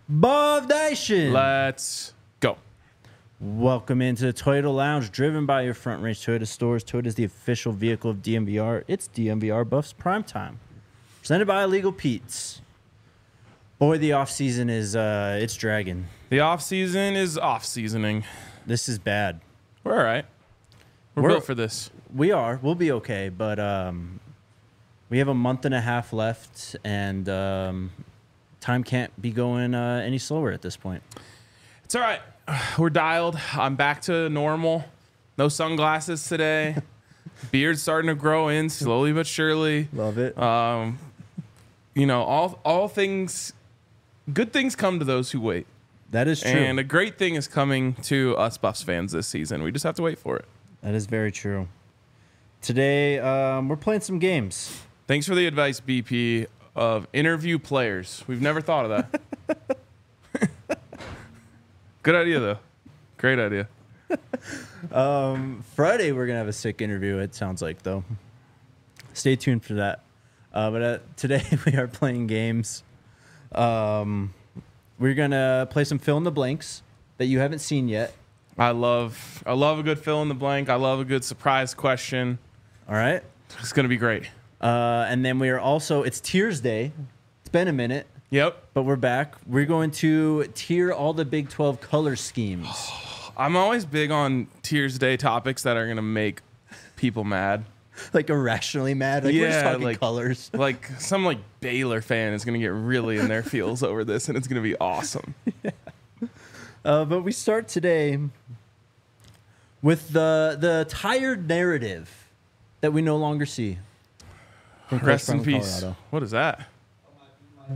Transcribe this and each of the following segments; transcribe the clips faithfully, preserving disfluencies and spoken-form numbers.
Bov Nation. Let's go. Welcome into the Toyota Lounge, driven by your Front Range Toyota stores. Toyota is the official vehicle of D M V R. It's D M V R Buffs Primetime. Presented by Illegal Pete's. Boy, the off season is uh, it's dragging. The off season is off seasoning. This is bad. We're all right. We're, We're- built for this. We are. We'll be okay, but um, we have a month and a half left, and um, time can't be going uh, any slower at this point. It's all right. We're dialed. I'm back to normal. No sunglasses today. Beard's starting to grow in slowly but surely. Love it. Um, you know, all all things, good things come to those who wait. That is true. And a great thing is coming to us Buffs fans this season. We just have to wait for it. That is very true. Today, um, we're playing some games. Thanks for the advice, B P, of interview players. We've never thought of that. Good idea, though. Great idea. Um, Friday, we're going to have a sick interview, it sounds like, though. Stay tuned for that. Uh, but uh, today, we are playing games. Um, we're going to play some fill in the blanks that you haven't seen yet. I love, I love a good fill in the blank. I love a good surprise question. All right? It's gonna be great. Uh, and then we are also, it's Tiers Day. It's been a minute, Yep. but we're back. We're going to tier all the Big twelve color schemes. I'm always big on Tears Day topics that are gonna make people mad. Like irrationally mad. Like we're just Yeah, talking like- colors. Like some like Baylor fan is gonna get really in their feels over this, and it's gonna be awesome. Uh, but we start today with the the tired narrative that we no longer see. From Rest in Crest peace. Colorado. What is that? I'm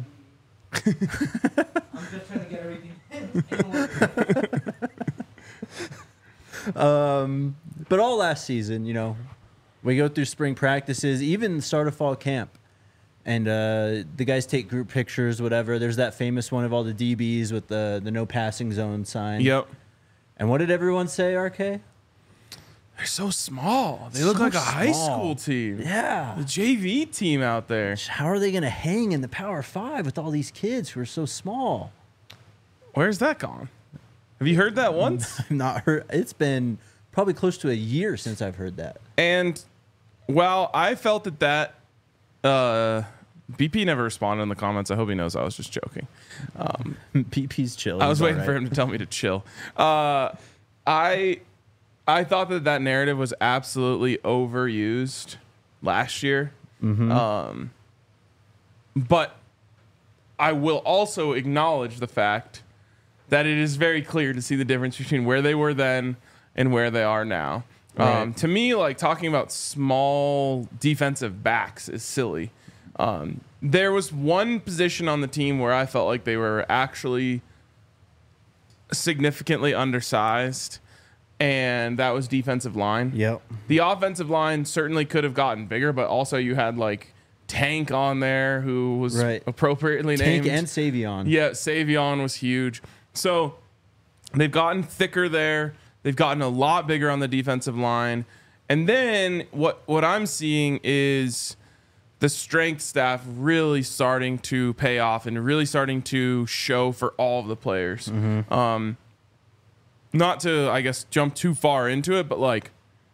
just trying to get everything in order. Um, but all last season, you know, we go through spring practices, even the start of fall camp. And uh, the guys take group pictures, whatever. There's that famous one of all the D Bs with the, the no passing zone sign. Yep. And what did everyone say, R K? They're so small. They look So like a high small. school team. Yeah. The J V team out there. How are they going to hang in the Power Five with all these kids who are so small? Where's that gone? Have you heard that once? I've not heard. It's been probably close to a year since I've heard that. And while I felt that that uh, B P never responded in the comments. I hope he knows I was just joking. Um, P P's chill. I was He's waiting all for right. him to tell me to chill. Uh, I I thought that that narrative was absolutely overused last year. Mm-hmm. Um, but I will also acknowledge the fact that it is very clear to see the difference between where they were then and where they are now. Right. Um, to me, like talking about small defensive backs is silly. Um, there was one position on the team where I felt like they were actually significantly undersized, and that was defensive line. Yep. The offensive line certainly could have gotten bigger, but also you had like Tank on there who was Right. appropriately Tank named. and Savion. Yeah, Savion was huge. So they've gotten thicker there. They've gotten a lot bigger on the defensive line. And then what what I'm seeing is the strength staff really starting to pay off and really starting to show for all of the players. Mm-hmm. Um, not to, I guess, jump too far into it, but like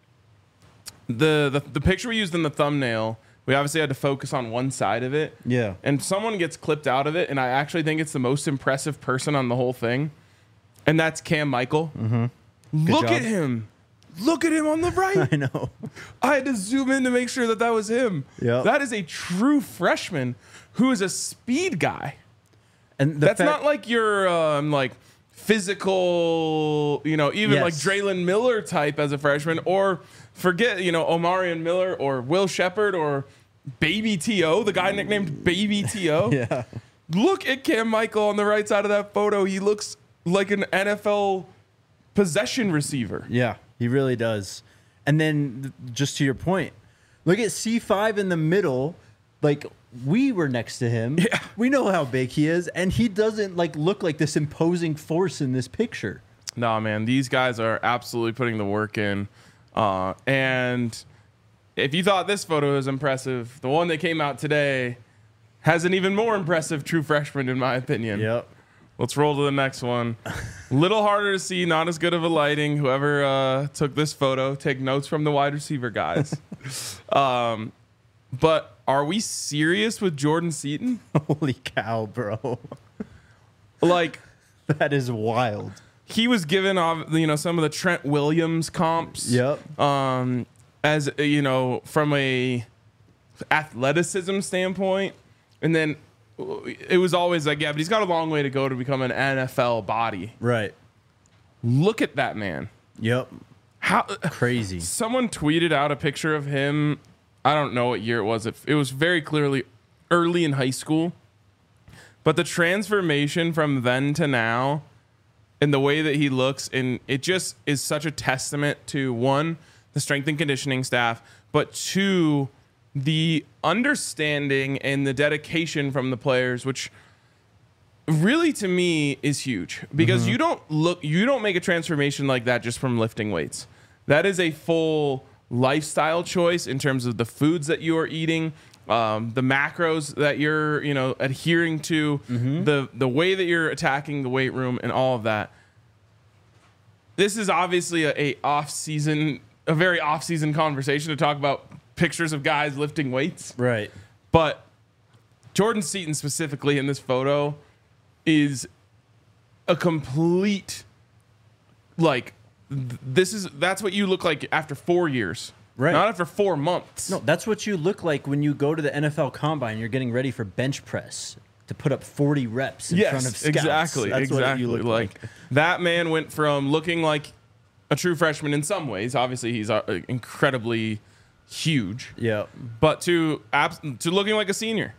the, the the picture we used in the thumbnail, we obviously had to focus on one side of it. Yeah. And someone gets clipped out of it, and I actually think it's the most impressive person on the whole thing, and that's Cam Michael. Mm-hmm. Look job. at him. Look at him on the right. I know. I had to zoom in to make sure that that was him. Yep. That is a true freshman who is a speed guy. And the That's fact- not like your um, like physical, you know, even Yes. like Draylon Miller type as a freshman, or forget, you know, Omarion Miller or Will Shepard or Baby T O, the guy nicknamed Baby T O. Yeah. Look at Cam Michael on the right side of that photo. He looks like an N F L possession receiver. Yeah, he really does. And then th- just to your point, look at C five in the middle. Like we were next to him. Yeah. We know how big he is, and he doesn't like look like this imposing force in this picture. No, man, these guys are absolutely putting the work in. Uh, and if you thought this photo was impressive, the one that came out today has an even more impressive true freshman, in my opinion. Yep. Let's roll to the next one. Little harder to see, not as good of a lighting. Whoever uh, took this photo, take notes from the wide receiver guys. um, but are we serious with Jordan Seaton? Holy cow, bro. Like, That is wild. he was given, uh, you know, some of the Trent Williams comps. Yep. Um, as uh, you know, from a athleticism standpoint, and then it was always like, yeah, but he's got a long way to go to become an N F L body. Right. Look at that man. Yep. How Crazy. someone tweeted out a picture of him. I don't know what year it was. It, it was very clearly early in high school. But the transformation from then to now and the way that he looks, and it just is such a testament to, one, the strength and conditioning staff, but two, the understanding and the dedication from the players, which really to me is huge, because mm-hmm. you don't look, you don't make a transformation like that just from lifting weights. That is a full lifestyle choice in terms of the foods that you are eating, um, the macros that you're, you know, adhering to, mm-hmm. the the way that you're attacking the weight room, and all of that. This is obviously a, a off season, a very off season conversation to talk about pictures of guys lifting weights, Right. but Jordan Seaton specifically in this photo is a complete, like, th- this is that's what you look like after four years, Right. Not after four months. No, that's what you look like when you go to the N F L Combine. You're getting ready for bench press to put up forty reps in yes, front of scouts. exactly, That's exactly. what you look like, like. that man went from looking like a true freshman in some ways. Obviously, he's uh, incredibly huge. Yep. But to abs- to looking like a senior.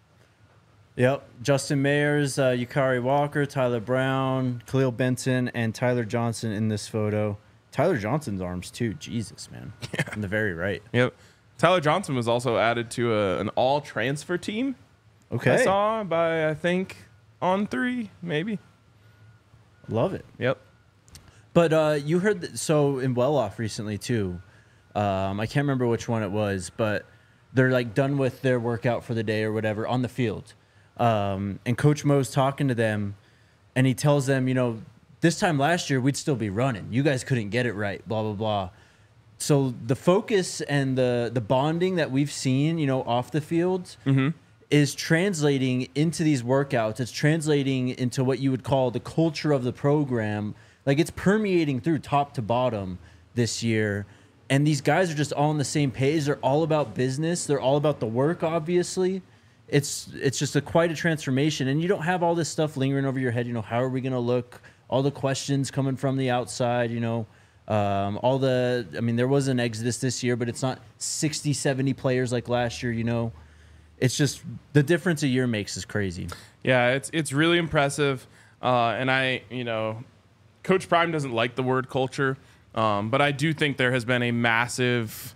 Yep. Justin Mayers, uh, Yukari Walker, Tyler Brown, Khalil Benson, and Tyler Johnson in this photo. Tyler Johnson's arms too. Jesus, man. Yeah. On the very right. Yep. Tyler Johnson was also added to a, an all transfer team. Okay. I saw by, I think, on three, maybe. Love it. Yep. But uh, you heard that, so in Well Off recently too. Um, I can't remember which one it was, but they're like done with their workout for the day or whatever on the field. Um, and Coach Mo's talking to them, and he tells them, you know, this time last year we'd still be running. You guys couldn't get it right, blah, blah, blah. So the focus and the the bonding that we've seen, you know, off the field Mm-hmm. is translating into these workouts. It's translating into what you would call the culture of the program. Like, it's permeating through top to bottom this year. And these guys are just all on the same page. They're all about business. They're all about the work, obviously. It's it's just a quite a transformation. And you don't have all this stuff lingering over your head. You know, how are we going to look? All the questions coming from the outside, you know. Um, all the, I mean, there was an exodus this year, but it's not sixty, seventy players like last year, you know. It's just the difference a year makes is crazy. Yeah, it's it's really impressive. Uh, and I, you know, Coach Prime doesn't like the word culture, um, but I do think there has been a massive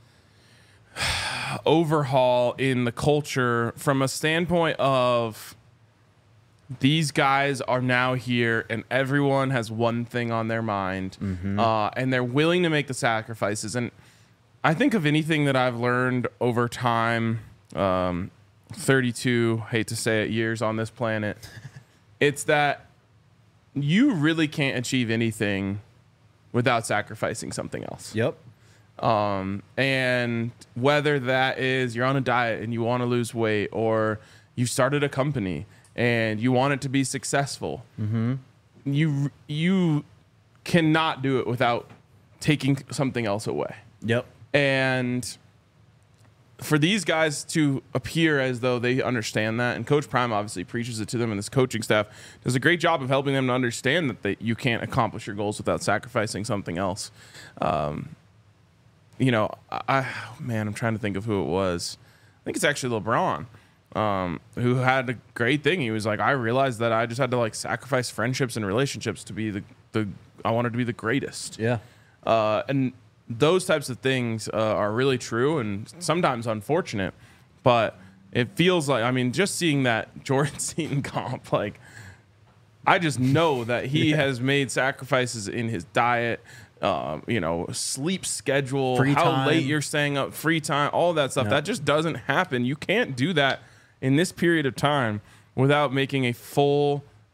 overhaul in the culture from a standpoint of these guys are now here and everyone has one thing on their mind, mm-hmm. uh, and they're willing to make the sacrifices. And I think of anything that I've learned over time, um, thirty-two, hate to say it, years on this planet, it's that you really can't achieve anything without sacrificing something else. Yep. Um, and whether that is you're on a diet and you want to lose weight, or you started a company and you want it to be successful, mm-hmm. you you cannot do it without taking something else away. Yep. And for these guys to appear as though they understand that, and Coach Prime obviously preaches it to them, and this coaching staff does a great job of helping them to understand that they, you can't accomplish your goals without sacrificing something else. Um, you know, I man, I'm trying to think of who it was. I think it's actually LeBron. Um, who had a great thing. He was like, I realized that I just had to like sacrifice friendships and relationships to be the, the I wanted to be the greatest. Yeah. Uh, and those types of things uh, are really true and sometimes unfortunate, but it feels like, I mean, just seeing that Jordan Seaton comp, like, I just know that he yeah. has made sacrifices in his diet, um, you know, sleep schedule, free how time. late you're staying up, free time, all that stuff. No. That just doesn't happen. You can't do that in this period of time without making a full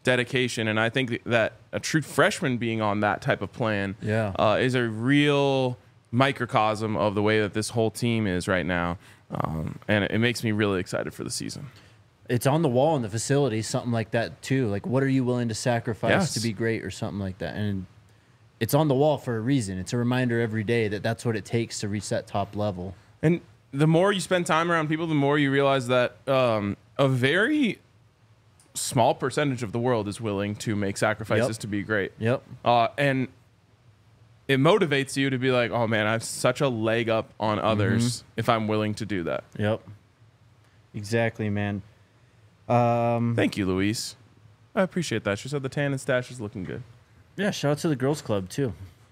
dedication, and I think that a true freshman being on that type of plan Yeah. uh, is a real microcosm of the way that this whole team is right now, um, and it makes me really excited for the season. It's on the wall in the facility, something like that too. Like, what are you willing to sacrifice Yes. to be great, or something like that? And it's on the wall for a reason. It's a reminder every day that that's what it takes to reach that top level. And the more you spend time around people, the more you realize that um, a very small percentage of the world is willing to make sacrifices Yep. to be great. Yep. Uh, and it motivates you to be like, oh man, I have such a leg up on others if I'm willing to do that. Yep. Exactly, man. Um, Thank you, Louise. I appreciate that. She said the tan and stash is looking good. yeah, shout out to the girls club too.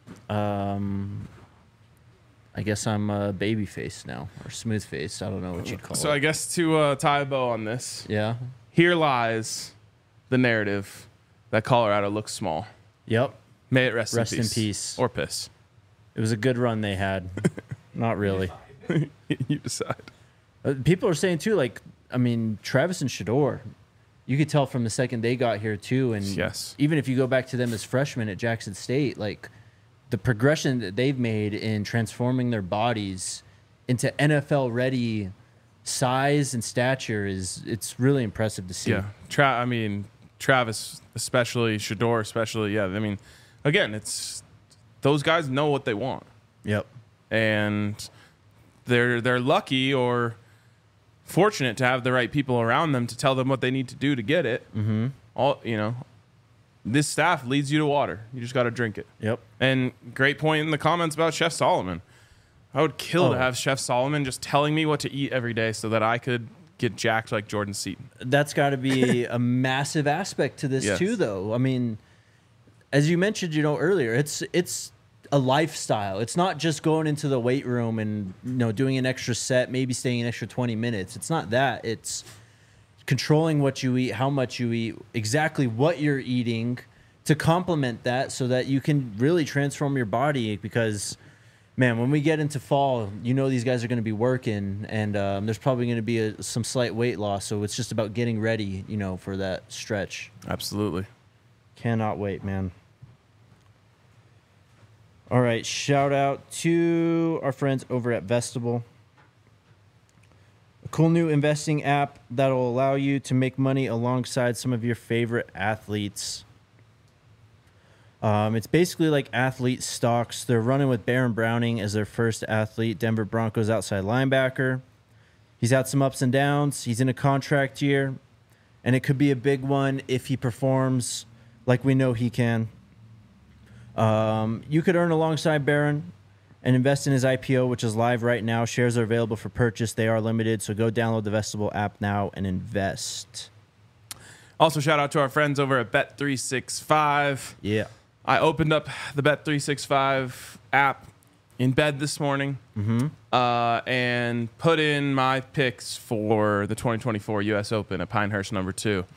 Um, I guess I'm a baby face now, or smooth face. I don't know what you'd call So it. I guess to uh, tie a bow on this, yeah. here lies the narrative that Colorado looks small. Yep. May it rest, Rest in, in peace. peace. Or piss. It was a good run they had. Not really. You decide. Uh, People are saying too, like, I mean, Travis and Shador, you could tell from the second they got here too, and Yes. even if you go back to them as freshmen at Jackson State, like the progression that they've made in transforming their bodies into N F L ready size and stature is it's really impressive to see. Yeah. Tra- I mean, Travis, especially, Shador, especially. Yeah. I mean, again, it's those guys know what they want. Yep. And they're they're lucky or fortunate to have the right people around them to tell them what they need to do to get it. Mm-hmm. All you know, this staff leads you to water. You just got to drink it. Yep. And great point in the comments about Chef Solomon. I would kill to Oh. have Chef Solomon just telling me what to eat every day so that I could get jacked like Jordan Seaton. That's got to be a massive aspect to this Yes. too, though. I mean, as you mentioned, you know, earlier, it's it's a lifestyle. It's not just going into the weight room and you know doing an extra set, maybe staying an extra twenty minutes. It's not that. It's controlling what you eat, how much you eat, exactly what you're eating to complement that, so that you can really transform your body. Because, man, when we get into fall, you know these guys are going to be working, and um, there's probably going to be a, some slight weight loss. So it's just about getting ready, you know, for that stretch. Absolutely. Cannot wait, man. All right, shout out to our friends over at Vestable. A cool new investing app that'll allow you to make money alongside some of your favorite athletes. Um, it's basically like athlete stocks. They're running with Baron Browning as their first athlete, Denver Broncos outside linebacker. He's had some ups and downs. He's in a contract year, and it could be a big one if he performs like we know he can. Um, you could earn alongside Baron and invest in his I P O, which is live right now. Shares are available for purchase. They are limited, so go download the Vestable app now and invest. Also, shout out to our friends over at Bet three sixty-five. Yeah. I opened up the Bet three sixty-five app in bed this morning Mm-hmm. uh, and put in my picks for the twenty twenty-four U S Open at Pinehurst number two.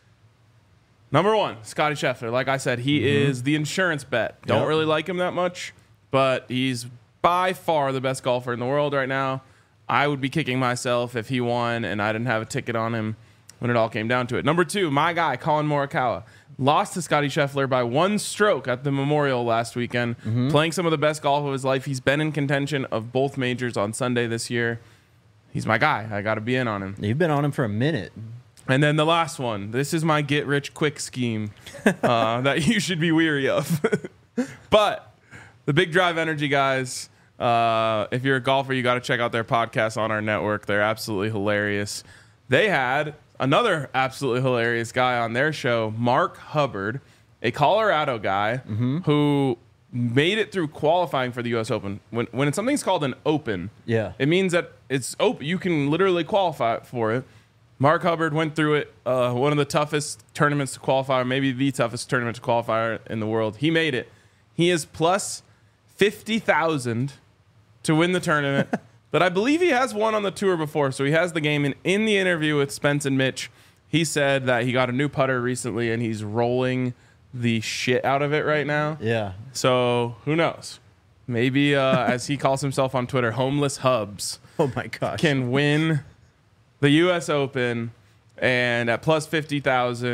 Number one, Scotty Scheffler. Like I said, he Mm-hmm. is the insurance bet. Don't Yep. really like him that much, but he's by far the best golfer in the world right now. I would be kicking myself if he won and I didn't have a ticket on him when it all came down to it. Number two, my guy, Colin Morikawa. Lost to Scotty Scheffler by one stroke at the Memorial last weekend, playing some of the best golf of his life. He's been in contention of both majors on Sunday this year. He's my guy. I got to be in on him. You've been on him for a minute. And then the last one. This is my get rich quick scheme uh, that you should be weary of. But the Big Drive Energy guys, uh, if you're a golfer, you got to check out their podcast on our network. They're absolutely hilarious. They had another absolutely hilarious guy on their show, Mark Hubbard, a Colorado guy who made it through qualifying for the U S Open. When when something's called an open, Yeah. it means that it's open. You can literally qualify for it. Mark Hubbard went through it, uh, one of the toughest tournaments to qualify, maybe the toughest tournament to qualify in the world. He made it. He is plus fifty thousand to win the tournament. But I believe he has won on the tour before, so he has the game. And in the interview with Spence and Mitch, he said that he got a new putter recently, and he's rolling the shit out of it right now. Yeah. So who knows? Maybe, uh, as he calls himself on Twitter, Homeless Hubs Oh, my gosh. can win the U S Open, and at plus fifty thousand,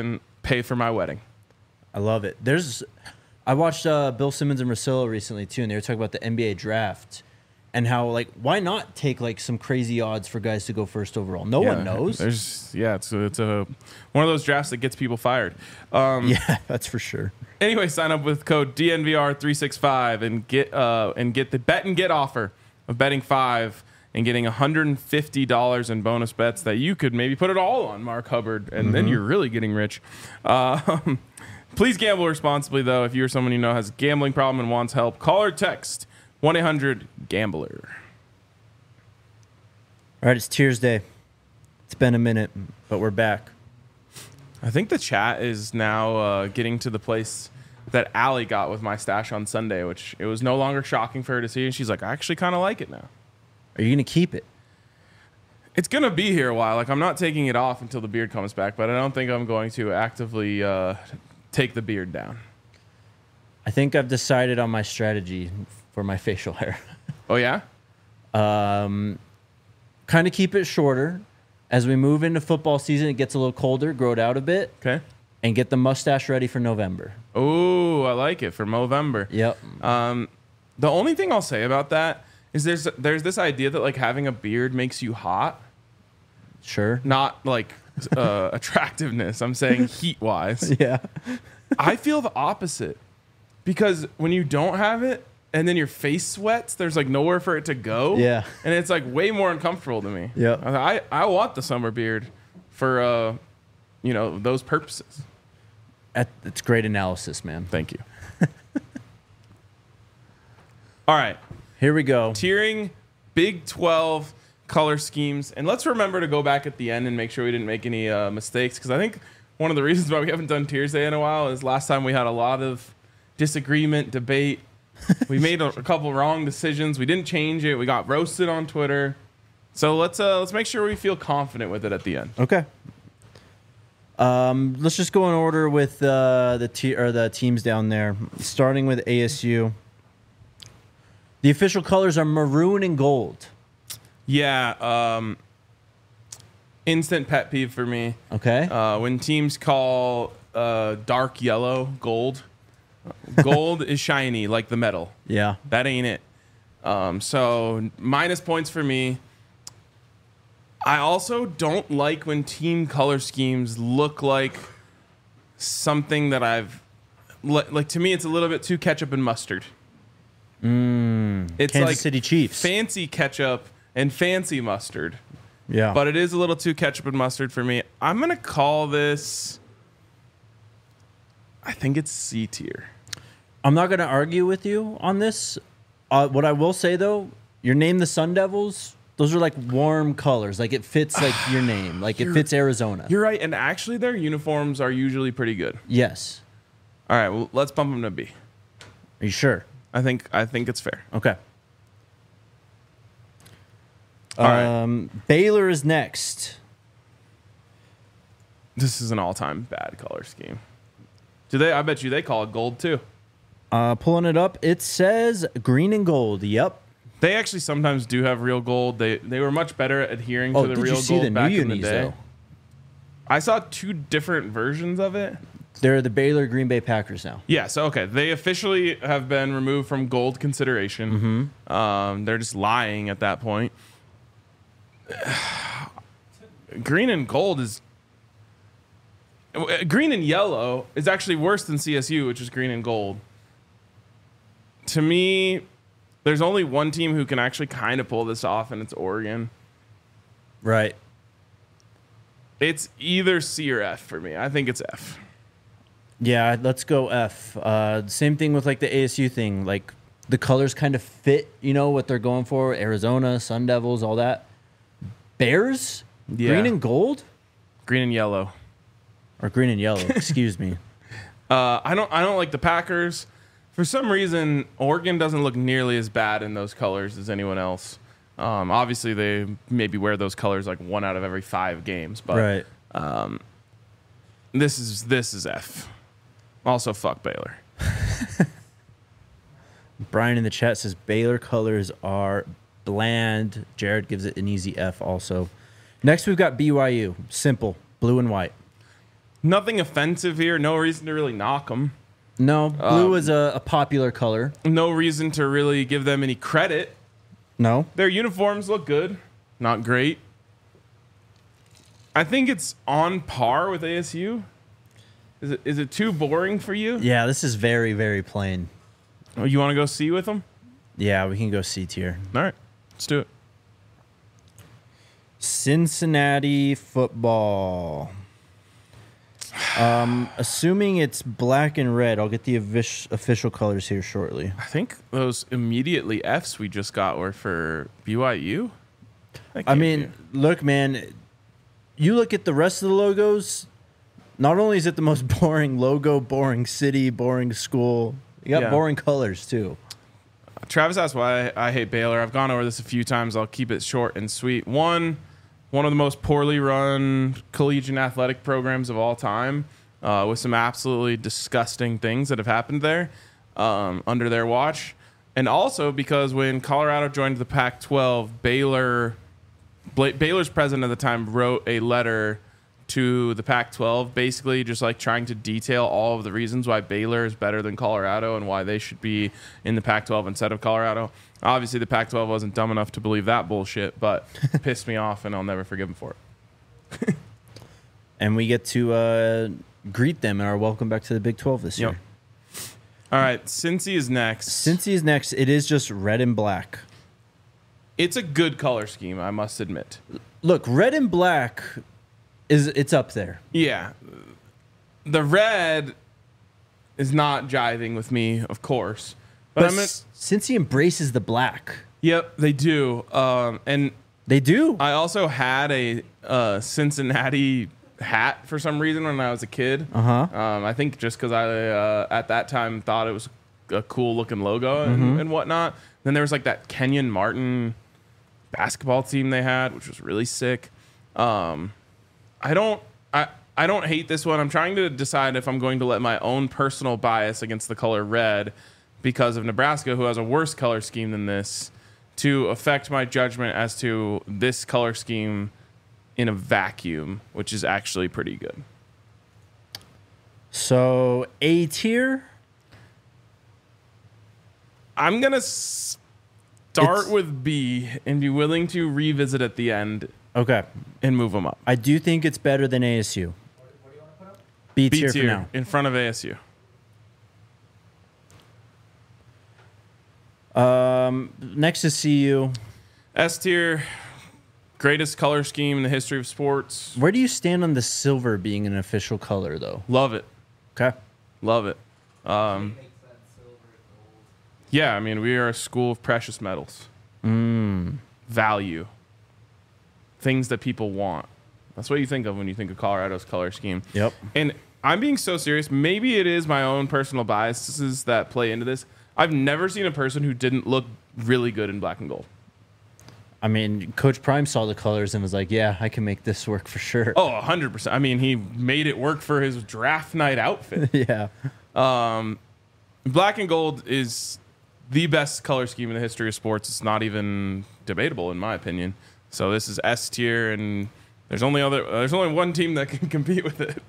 pay for my wedding. I love it. There's, I watched uh, Bill Simmons and Russillo recently too, and they were talking about the N B A draft and how like why not take like some crazy odds for guys to go first overall? No Yeah, one knows. There's yeah, it's a, it's a one of those drafts that gets people fired. Um, Yeah, that's for sure. Anyway, sign up with code D N V R three six five and get uh and get the bet and get offer of betting five and getting one hundred fifty dollars in bonus bets that you could maybe put it all on Mark Hubbard, and mm-hmm. then you're really getting rich. Um, please gamble responsibly, though. If you're someone you know has a gambling problem and wants help, call or text one eight hundred gambler. All right, it's Tears Day. It's been a minute, but we're back. I think the chat is now uh, getting to the place that Allie got with my stash on Sunday, which it was no longer shocking for her to see. And she's like, I actually kind of like it now. Are you going to keep it? It's going to be here a while. Like, I'm not taking it off until the beard comes back, but I don't think I'm going to actively uh, take the beard down. I think I've decided on my strategy for my facial hair. Oh, yeah? Um, kind of keep it shorter. As we move into football season, it gets a little colder, grow it out a bit. Okay. And get the mustache ready for November. Oh, I like it, for Movember. Yep. Um, the only thing I'll say about that is there's there's this idea that like having a beard makes you hot. Sure. Not like uh, attractiveness. I'm saying heat wise. Yeah. I feel the opposite because when you don't have it and then your face sweats, there's like nowhere for it to go. Yeah. And it's like way more uncomfortable to me. Yeah. I I want the summer beard for uh, you know, those purposes. It's great analysis, man. Thank you. All right. Here we go. Tiering Big twelve color schemes. And let's remember to go back at the end and make sure we didn't make any uh, mistakes. Because I think one of the reasons why we haven't done Tiers Day in a while is last time we had a lot of disagreement, debate. We made a, a couple wrong decisions. We didn't change it. We got roasted on Twitter. So let's uh, let's make sure we feel confident with it at the end. Okay. Um, let's just go in order with uh, the te- or the teams down there, starting with A S U. The official colors are maroon and gold. Yeah. Um, instant pet peeve for me. Okay. Uh, when teams call uh, dark yellow gold, gold is shiny like the metal. Yeah. That ain't it. Um, so minus points for me. I also don't like when team color schemes look like something that I've like. To me, it's a little bit too ketchup and mustard. Mm, it's Kansas like City Chiefs. Fancy ketchup and fancy mustard. Yeah. But it is a little too ketchup and mustard for me. I'm gonna call this. I think it's C tier. I'm not going to argue with you on this. Uh, what I will say though, your name the Sun Devils. Those are like warm colors. Like it fits like your name. Like it fits Arizona. You're right. And actually, their uniforms are usually pretty good. Yes. All right. Well, let's bump them to B. Are you sure? I think I think it's fair. Okay. All right. Um, Baylor is next. This is an all-time bad color scheme. Do they? I bet you they call it gold too. Uh, pulling it up, it says green and gold. Yep. They actually sometimes do have real gold. They they were much better at adhering Oh, to the did real you see gold the back new in the unis, day. though? I saw two different versions of it. They're the Baylor Green Bay Packers now. Yeah, so okay, they officially have been removed from gold consideration. Mm-hmm. Um, they're just lying at that point. Green and gold is green and yellow is actually worse than C S U, which is green and gold. To me, there's only one team who can actually kind of pull this off, and it's Oregon. Right. It's either C or F for me. I think it's F. Yeah, let's go F. Uh, same thing with like the A S U thing. Like the colors kind of fit, you know, what they're going for. Arizona, Sun Devils, all that. Bears? Yeah. Green and gold? Green and yellow. Or green and yellow, excuse me. Uh, I don't I don't like the Packers. For some reason, Oregon doesn't look nearly as bad in those colors as anyone else. Um, obviously, they maybe wear those colors like one out of every five games, but Right. um, this is this is F. Also, fuck Baylor. Brian in the chat says Baylor colors are bland. Jared gives it an easy F also. Next, we've got B Y U. Simple. Blue and white. Nothing offensive here. No reason to really knock them. No, blue Um, is a, a popular color. No reason to really give them any credit. No. Their uniforms look good. Not great. I think it's on par with A S U. Is it is it too boring for you? Yeah, this is very, very plain. Oh, you want to go see with them? Yeah, we can go C tier. All right, let's do it. Cincinnati football. Um, assuming it's black and red, I'll get the offic- official colors here shortly. I think those immediately Fs we just got were for B Y U. That I can't mean, be. look, man, you look at the rest of the logos, not only is it the most boring logo, boring city, boring school, you got Yeah. boring colors too. Travis asked why I hate Baylor. I've gone over this a few times. I'll keep it short and sweet. One, one of the most poorly run collegiate athletic programs of all time, uh, with some absolutely disgusting things that have happened there um, under their watch. And also because when Colorado joined the Pac twelve, Baylor, Bla- Baylor's president at the time wrote a letter to the Pac twelve, basically just like trying to detail all of the reasons why Baylor is better than Colorado and why they should be in the Pac twelve instead of Colorado. Obviously, the Pac twelve wasn't dumb enough to believe that bullshit, but pissed me off, and I'll never forgive them for it. And we get to uh, greet them in our welcome back to the Big twelve this Yep. year. All right, Cincy is next. Cincy is next. It is just red and black. It's a good color scheme, I must admit. Look, red and black is it's up there. Yeah. The red is not jiving with me, of course. But, But I'm gonna, s- Cincy embraces the black. Yep, they do. Um, and They do. I also had a uh, Cincinnati hat for some reason when I was a kid. Uh huh. Um, I think just because I uh, at that time thought it was a cool looking logo and, Mm-hmm. and whatnot. Then there was like that Kenyon Martin basketball team they had, which was really sick. Um, I don't I I don't hate this one. I'm trying to decide if I'm going to let my own personal bias against the color red because of Nebraska, who has a worse color scheme than this, to affect my judgment as to this color scheme in a vacuum, which is actually pretty good. So A tier. I'm going to start It's- with B and be willing to revisit at the end Okay. and move them up. I do think it's better than A S U. B B tier for tier now. in front of A S U. Um, next is C U. S tier, greatest color scheme in the history of sports. Where do you stand on the silver being an official color, though? Love it. Okay. Love it. Um, Makes that silver gold. yeah, I mean, we are a school of precious metals. Mm. Value. Things that people want. That's what you think of when you think of Colorado's color scheme. Yep. And I'm being so serious. Maybe it is my own personal biases that play into this. I've never seen a person who didn't look really good in black and gold. I mean, Coach Prime saw the colors and was like, "Yeah, I can make this work for sure." Oh, one hundred percent. I mean, he made it work for his draft night outfit. yeah. Um, black and gold is the best color scheme in the history of sports. It's not even debatable, in my opinion. So this is S tier, and there's only other there's only one team that can compete with it.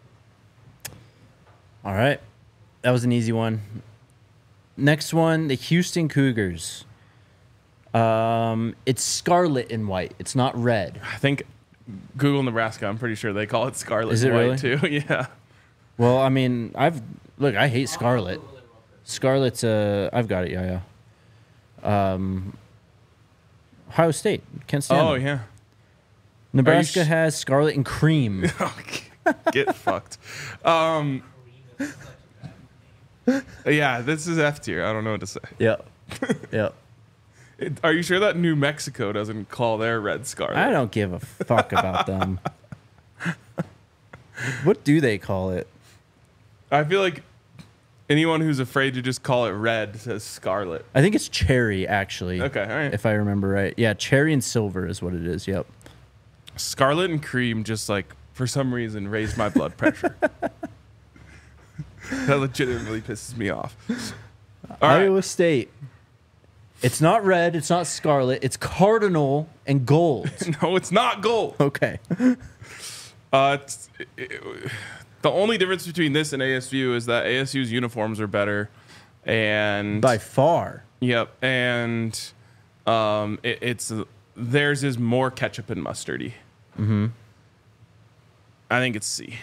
All right. That was an easy one. Next one, the Houston Cougars. Um, it's scarlet and white. It's not red. I think Google Nebraska. I'm pretty sure they call it scarlet Is and it white really? too. Yeah. Well, I mean, I've look. I hate scarlet. Scarlet's. Uh, I've got it. Yeah, yeah. Um, Ohio State. Can't stand Oh them. yeah. Nebraska sh- has scarlet and cream. Get fucked. Um, yeah, this is F tier. I don't know what to say. Yep. Yep. It- Are you sure that New Mexico doesn't call their red scarlet? I don't give a fuck about them. What do they call it? I feel like anyone who's afraid to just call it red says scarlet. I think it's cherry, actually. Okay, all right. If I remember right. Yeah, cherry and silver is what it is. Yep. Scarlet and cream just like for some reason raised my blood pressure. That legitimately pisses me off. All right. Iowa State. It's not red. It's not scarlet. It's cardinal and gold. No, it's not gold. Okay. Uh, it's, it, it, the only difference between this and A S U is that A S U's uniforms are better, and By far. yep, and um, it, it's theirs is more ketchup and mustardy. Mm-hmm. I think it's C.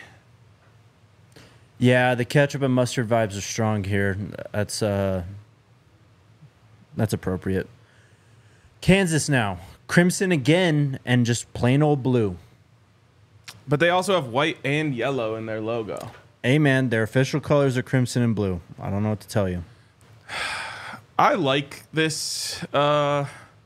Yeah, the ketchup and mustard vibes are strong here. That's uh, that's appropriate. Kansas now. Crimson again and just plain old blue. But they also have white and yellow in their logo. Hey, man, their official colors are crimson and blue. I don't know what to tell you. I like this. Uh,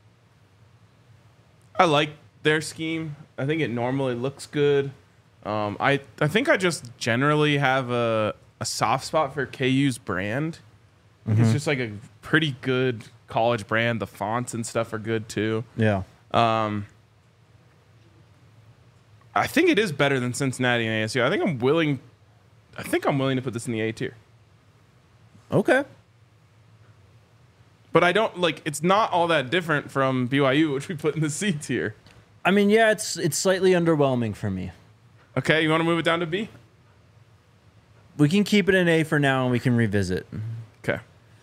I like their scheme. I think it normally looks good. Um, I I think I just generally have a, a soft spot for K U's brand. Mm-hmm. It's just like a pretty good college brand. The fonts and stuff are good too. Yeah. Um, I think it is better than Cincinnati and A S U. I think I'm willing. I think I'm willing to put this in the A tier. Okay. But I don't like. It's not all that different from B Y U, which we put in the C tier. I mean, yeah, it's it's slightly underwhelming for me. Okay, you want to move it down to B? We can keep it in A for now and we can revisit. Okay.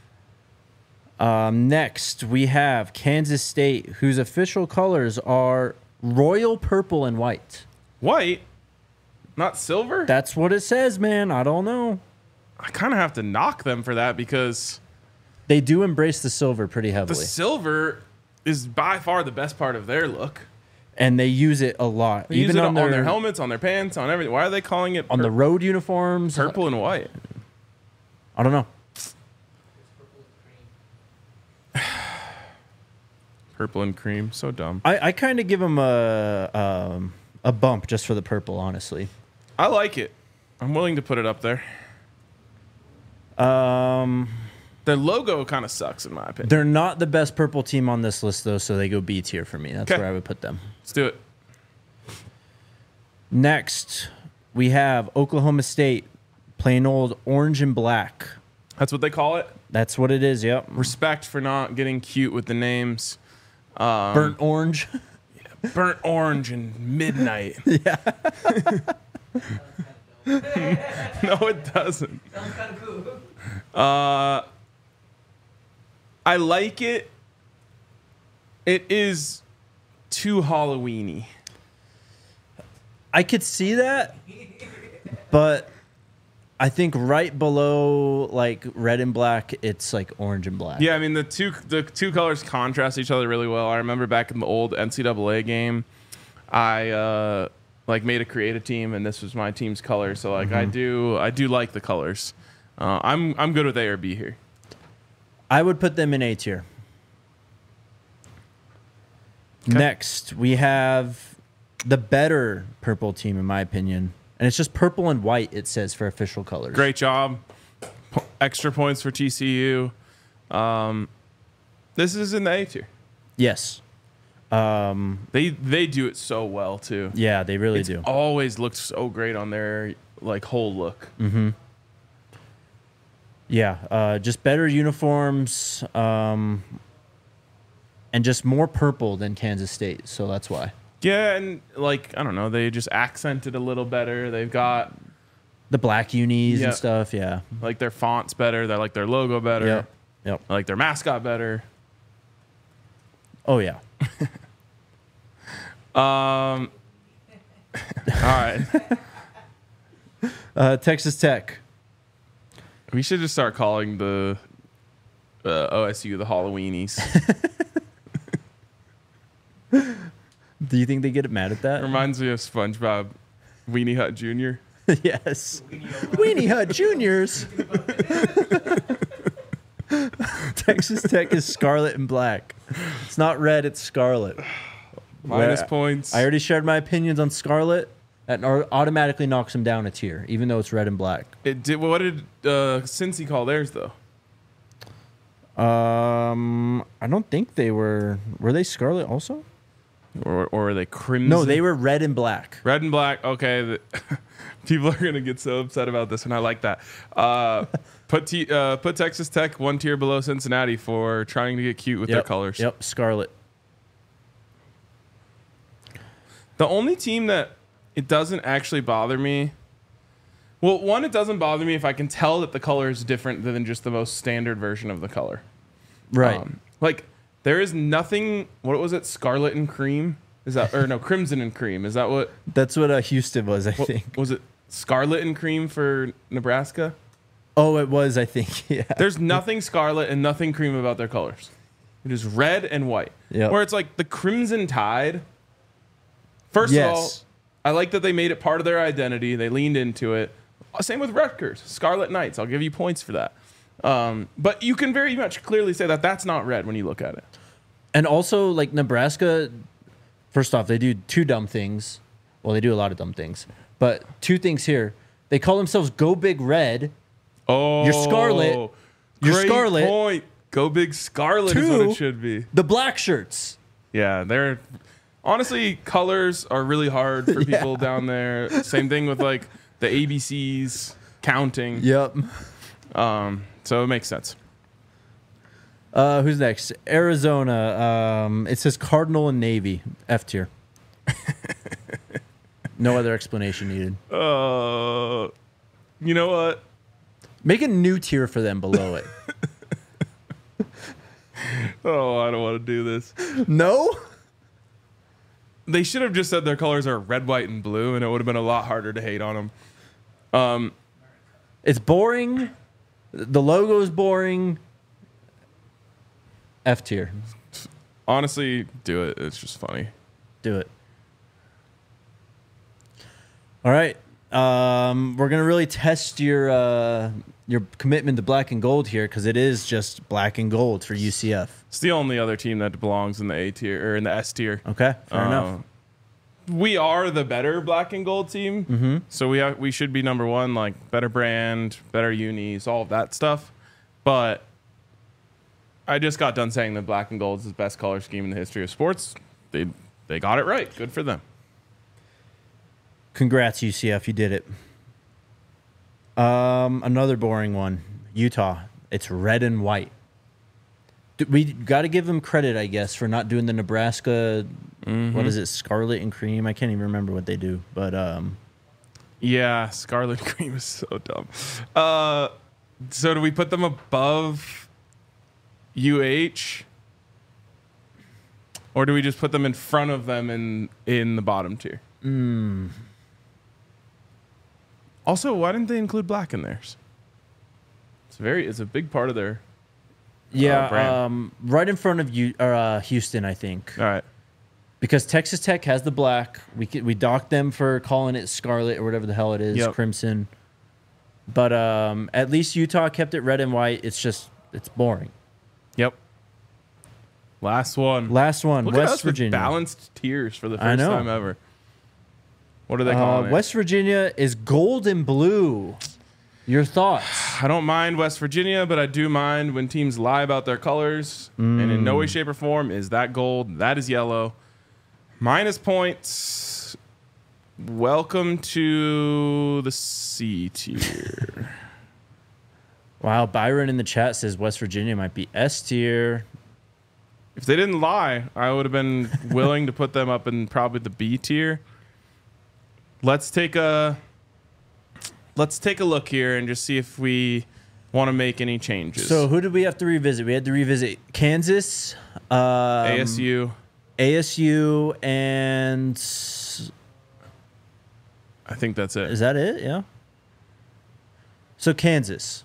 Um, next, we have Kansas State, whose official colors are royal purple and white. White, not silver. That's what it says, man. I don't know. I kind of have to knock them for that because They do embrace the silver pretty the heavily. silver is by far the best part of their look. And they use it a lot. They Even use it on, on, their, their helmets, on their pants, on everything. Why are they calling it on pur- the road uniforms. purple and white? I don't know. It's purple and cream. Purple and cream, so dumb. I, I kind of give them a um, a bump just for the purple, honestly. I like it. I'm willing to put it up there. Um, Their logo kind of sucks, in my opinion. they're not the best purple team on this list, though, so they go B tier for me. That's 'Kay. where I would put them. Let's do it. Next, we have Oklahoma State, plain old orange and black. That's what they call it. That's what it is, yep. Respect for not getting cute with the names. Um, Burnt orange. burnt orange and midnight. Yeah. No, it doesn't. Sounds kind of cool. Uh, I like it. It is too Halloweeny. I could see that, but I think right below like red and black, it's like orange and black. Yeah, I mean the two the two colors contrast each other really well. I remember back in the old N C double A game, I uh, like made a creative team, and this was my team's color. So like I do I do like the colors. Uh, I'm I'm good with A or B here. I would put them in A tier. Okay. Next, we have the better purple team, in my opinion. And it's just purple and white, it says, for official colors. Great job. Po- extra points for T C U. Um, this is in the A tier. Yes. Um, They they do it so well too. yeah, they really It's do. always looked so great on their like whole look. Mm-hmm. Yeah, uh, just better uniforms um, and just more purple than Kansas State. So that's why. Yeah, and like I don't know, they just accented a little better. They've got The black unis Yeah. and stuff, yeah. like their fonts better. They like their logo better. Yep. Yep. I like their mascot better. Oh, yeah. Um. All right, Uh, Texas Tech. we should just start calling the uh, O S U the Halloweenies. Do you think they get mad at that? Reminds me of SpongeBob, Weenie Hut Junior Yes. Weenie Hut Juniors. Texas Tech is scarlet and black. It's not red, it's scarlet. Minus Where- points. I already shared my opinions on scarlet. That au- automatically knocks them down a tier, even though it's red and black. It did. What did uh, Cincy call theirs though? Um, I don't think they were. Were they scarlet also? Or or were they crimson? No, they were red and black. red and black. Okay, the, people are gonna get so upset about this, and I like that. Uh, put T, uh, put Texas Tech one tier below Cincinnati for trying to get cute with their Yep, colors. Yep, scarlet. The only team that it doesn't actually bother me. Well, one, it doesn't bother me if I can tell that the color is different than just the most standard version of the color. Right. Um, like, there is nothing. What was it? Scarlet and cream? Is that or no? Crimson and cream? Is that what? That's what uh, Houston was, I what think. was it? Scarlet and cream for Nebraska? Oh, it was, I think. Yeah. There's nothing scarlet and nothing cream about their colors. It is red and white. Yep. Where it's like the Crimson Tide. First Yes. of all, I like that they made it part of their identity. They leaned into it. Same with Rutgers, Scarlet Knights. I'll give you points for that. Um, but you can very much clearly say that that's not red when you look at it. And also, like, Nebraska, first off, they do two dumb things. Well, they do a lot of dumb things. But two things here. They call themselves Go Big Red. Oh, You're Scarlet. You're great Scarlet. point. Go Big Scarlet is what Two. it should be. The black shirts. Yeah, they're honestly colors are really hard for people Yeah. down there. Same thing with like the A B Cs counting. Yep. Um, so it makes sense. Uh, who's next? Arizona. Um, it says Cardinal and Navy. F tier. No other explanation needed. Uh, you know what? Make a new tier for them below it. Oh, I don't want to do this. No? They should have just said their colors are red, white, and blue, and it would have been a lot harder to hate on them. Um, It's boring. The logo is boring. F tier. honestly, do it. It's just funny. Do it. All right. Um, we're gonna really test your uh, your commitment to black and gold here because it is just black and gold for U C F. It's the only other team that belongs in the A tier or in the S tier. Okay, fair Uh, enough. We are the better black and gold team, Mm-hmm. so we have, we should be number one. Like better brand, better unis, all of that stuff. But I just got done saying that black and gold is the best color scheme in the history of sports. They they got it right. Good for them. Congrats, U C F. You did it. Um, another boring one. Utah. It's red and white. D- We got to give them credit, I guess, for not doing the Nebraska. What is it? Scarlet and cream. I can't even remember what they do, but um, Yeah, Scarlet Cream is so dumb. Uh, so do we put them above U H, or do we just put them in front of them in in the bottom tier? mm, Also, why didn't they include black in theirs? It's very it's a big part of their. yeah, brand. um, right in front of you, or, uh, Houston, I think. All right. Because Texas Tech has the black. We could, we docked them for calling it scarlet or whatever the hell it is, Yep. crimson. But um, at least Utah kept it red and white. It's just it's boring. Yep. Last one. Last one, Look at West us with Virginia. balanced tiers for the I first know. time ever. What are they Uh, calling it? West Virginia is gold and blue. Your thoughts? I don't mind West Virginia, but I do mind when teams lie about their colors. And in no way, shape, or form is that gold. That is yellow. Minus points. Welcome to the C tier. Wow, Byron in the chat says West Virginia might be S tier. If they didn't lie, I would have been willing to put them up in probably the B tier. Let's take a let's take a look here and just see if we want to make any changes. So who did we have to revisit? We had to revisit Kansas, um, A S U. A S U, and I think that's it. is that it? Yeah. So Kansas.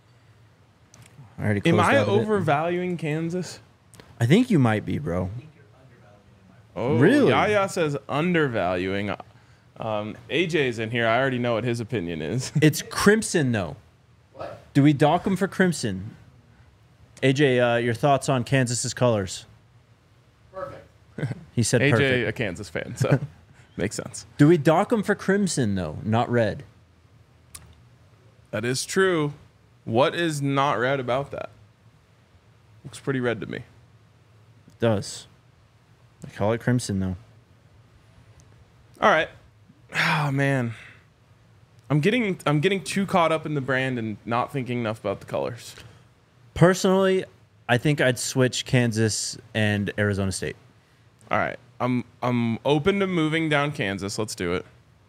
I already Am closed I out of it. overvaluing Kansas? I think you might be, bro. Oh, Really? Yaya says undervaluing. Um, A J's in here. I already know what his opinion is. It's crimson, though. What? Do we dock them for crimson? A J, uh, your thoughts on Kansas's colors? Perfect. He said A J, perfect. a Kansas fan, so makes sense. Do we dock them for crimson, though, not red? That is true. What is not red about that? Looks pretty red to me. It does. I call it crimson, though. All right. Oh man, I'm getting I'm getting too caught up in the brand and not thinking enough about the colors. Personally, I think I'd switch Kansas and Arizona State. All right. I'm I'm open to moving down Kansas. Let's do it.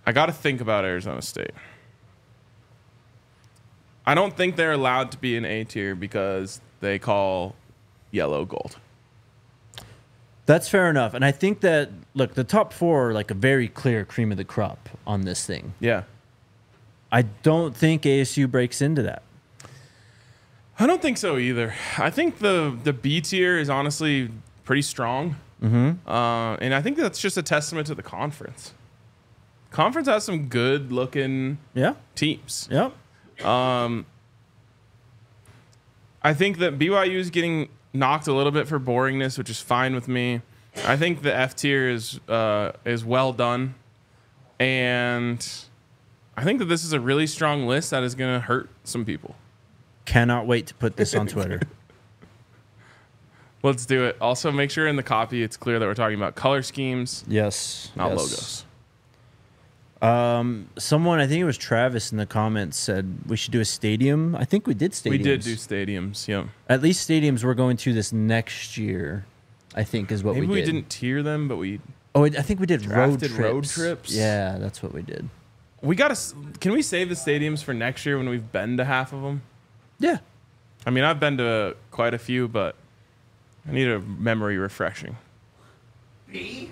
I got to think about Arizona State. I don't think they're allowed to be in A tier because they call yellow gold. That's fair enough. And I think that, look, the top four are like a very clear cream of the crop on this thing. Yeah. I don't think A S U breaks into that. I don't think so either. I think the, the B tier is honestly pretty strong. Mm-hmm. Uh, and I think that's just a testament to the conference. Conference has some good looking Yeah. teams. Yep. Um, I think that B Y U is getting knocked a little bit for boringness, which is fine with me. I think the F tier is uh, is well done, and I think that this is a really strong list that is going to hurt some people. Cannot wait to put this on Twitter. Let's do it. Also, make sure in the copy it's clear that we're talking about color schemes, Yes. not yes. logos. Um, someone, I think it was Travis in the comments, said we should do a stadium. I think we did stadiums. We did do stadiums, yeah. At least stadiums we're going to this next year, I think is what Maybe we we did. didn't tier them, but we Oh, I think we did road Drafted trips. road trips? Yeah, that's what we did. we got to. Can we save the stadiums for next year when we've been to half of them? Yeah. I mean, I've been to quite a few, but I need a memory refreshing. B?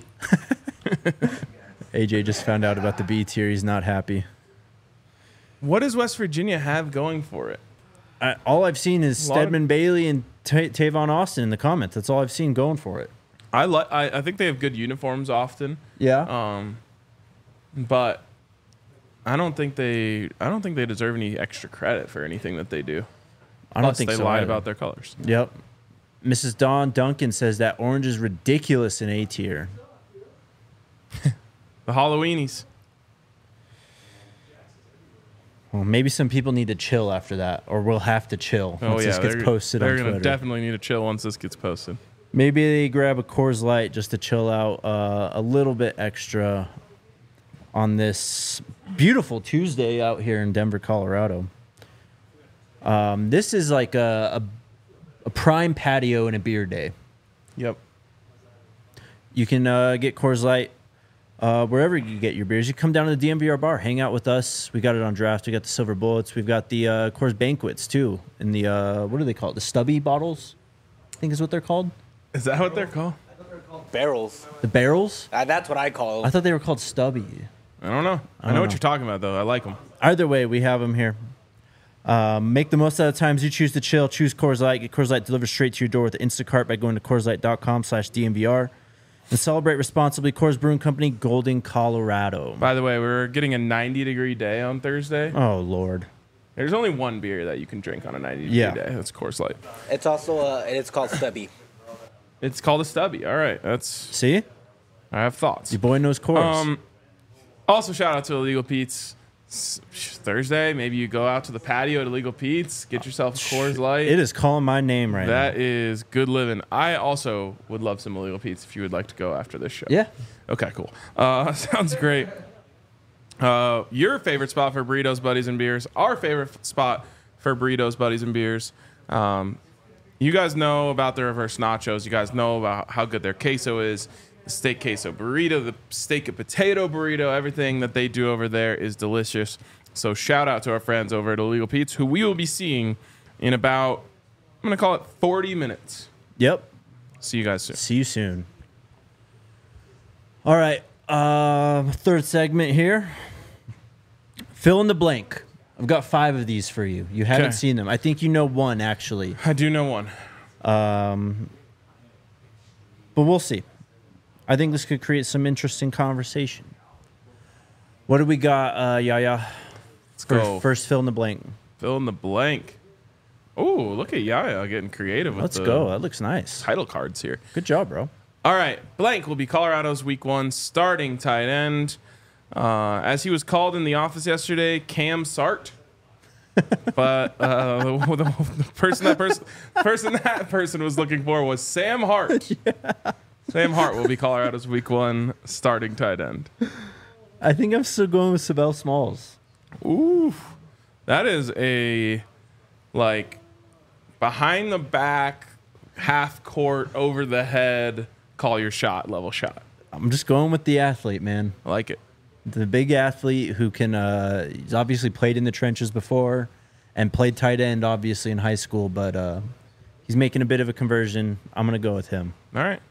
A J just found out about the B tier. He's not happy. What does West Virginia have going for it? I, all I've seen is A lot of- Stedman Bailey and Ta Tavon Austin in the comments. That's all I've seen going for it. I like. I, I think they have good uniforms often, Yeah. um, but I don't think they. I don't think they deserve any extra credit for anything that they do. I don't Plus, think they so. lied either. about their colors. Yep. Missus Dawn Duncan says that orange is ridiculous in A tier. The Halloweenies. Well, maybe some people need to chill after that, or we'll have to chill Oh once yeah, this gets they're, posted they're on gonna Twitter. definitely need to chill once this gets posted. Maybe they grab a Coors Light just to chill out uh, a little bit extra on this beautiful Tuesday out here in Denver, Colorado. Um, this is like a, a, a prime patio and a beer day. Yep. You can uh, get Coors Light uh, wherever you get your beers. You come down to the D M V R bar, hang out with us. We got it on draft. We got the Silver Bullets. We've got the uh, Coors Banquets too. In the uh, what do they call it? The stubby bottles, I think is what they're called. Is that what they're called? Barrels. The barrels. Uh, that's what I call I them. thought they were called stubby. I don't know. I, don't know what know. you're talking about though. I like them. Either way, we have them here. Um, make the most out of the times you choose to chill. Choose Coors Light. Get Coors Light delivered straight to your door with Instacart by going to CoorsLight.com slash DMVR. And celebrate responsibly. Coors Brewing Company, Golden, Colorado. By the way, we're getting a ninety degree day on Thursday. Oh, Lord. There's only one beer that you can drink on a ninety degree Yeah. day. That's Coors Light. It's also uh, it's called Stubby. It's called a stubby. All right, that's. See? I have thoughts. Your boy knows Coors. Um, also, shout out to Illegal Pete's. S- Thursday, maybe you go out to the patio at Illegal Pete's, get yourself a Coors Light. it is calling my name right That now. is good living. I also would love some Illegal Pete's if you would like to go after this show. Yeah. Okay, cool. Uh, sounds great. Uh, your favorite spot for burritos, buddies, and beers. Our favorite f- spot for burritos, buddies, and beers. Um, you guys know about the reverse nachos. You guys know about how good their queso is. The steak queso burrito, the steak and potato burrito, everything that they do over there is delicious. So shout out to our friends over at Illegal Pete's, who we will be seeing in about, I'm going to call it forty minutes. Yep. See you guys soon. See you soon. All right. Uh, third segment here. Fill in the blank. I've got five of these for you. You haven't Okay. seen them. I think you know one, actually. I do know one. Um, but we'll see. I think this could create some interesting conversation. What do we got, uh, Yaya? Let's For go. first fill in the blank. Fill in the blank. Oh, look at Yaya getting creative with Let's the go. That looks nice. title cards here. Good job, bro. All right, blank will be Colorado's week one starting tight end. Uh, as he was called in the office yesterday, Cam Sart. But uh, the, the, the person that person person that person was looking for was Sam Hart. Sam Hart will be Colorado's week one starting tight end. I think I'm still going with Sabell Smalls. Ooh, that is a like behind the back, half court, over the head, call your shot level shot. I'm just going with the athlete, man. I like it. The big athlete who can, uh, he's obviously played in the trenches before and played tight end, obviously, in high school, but uh, he's making a bit of a conversion. I'm going to go with him. All right.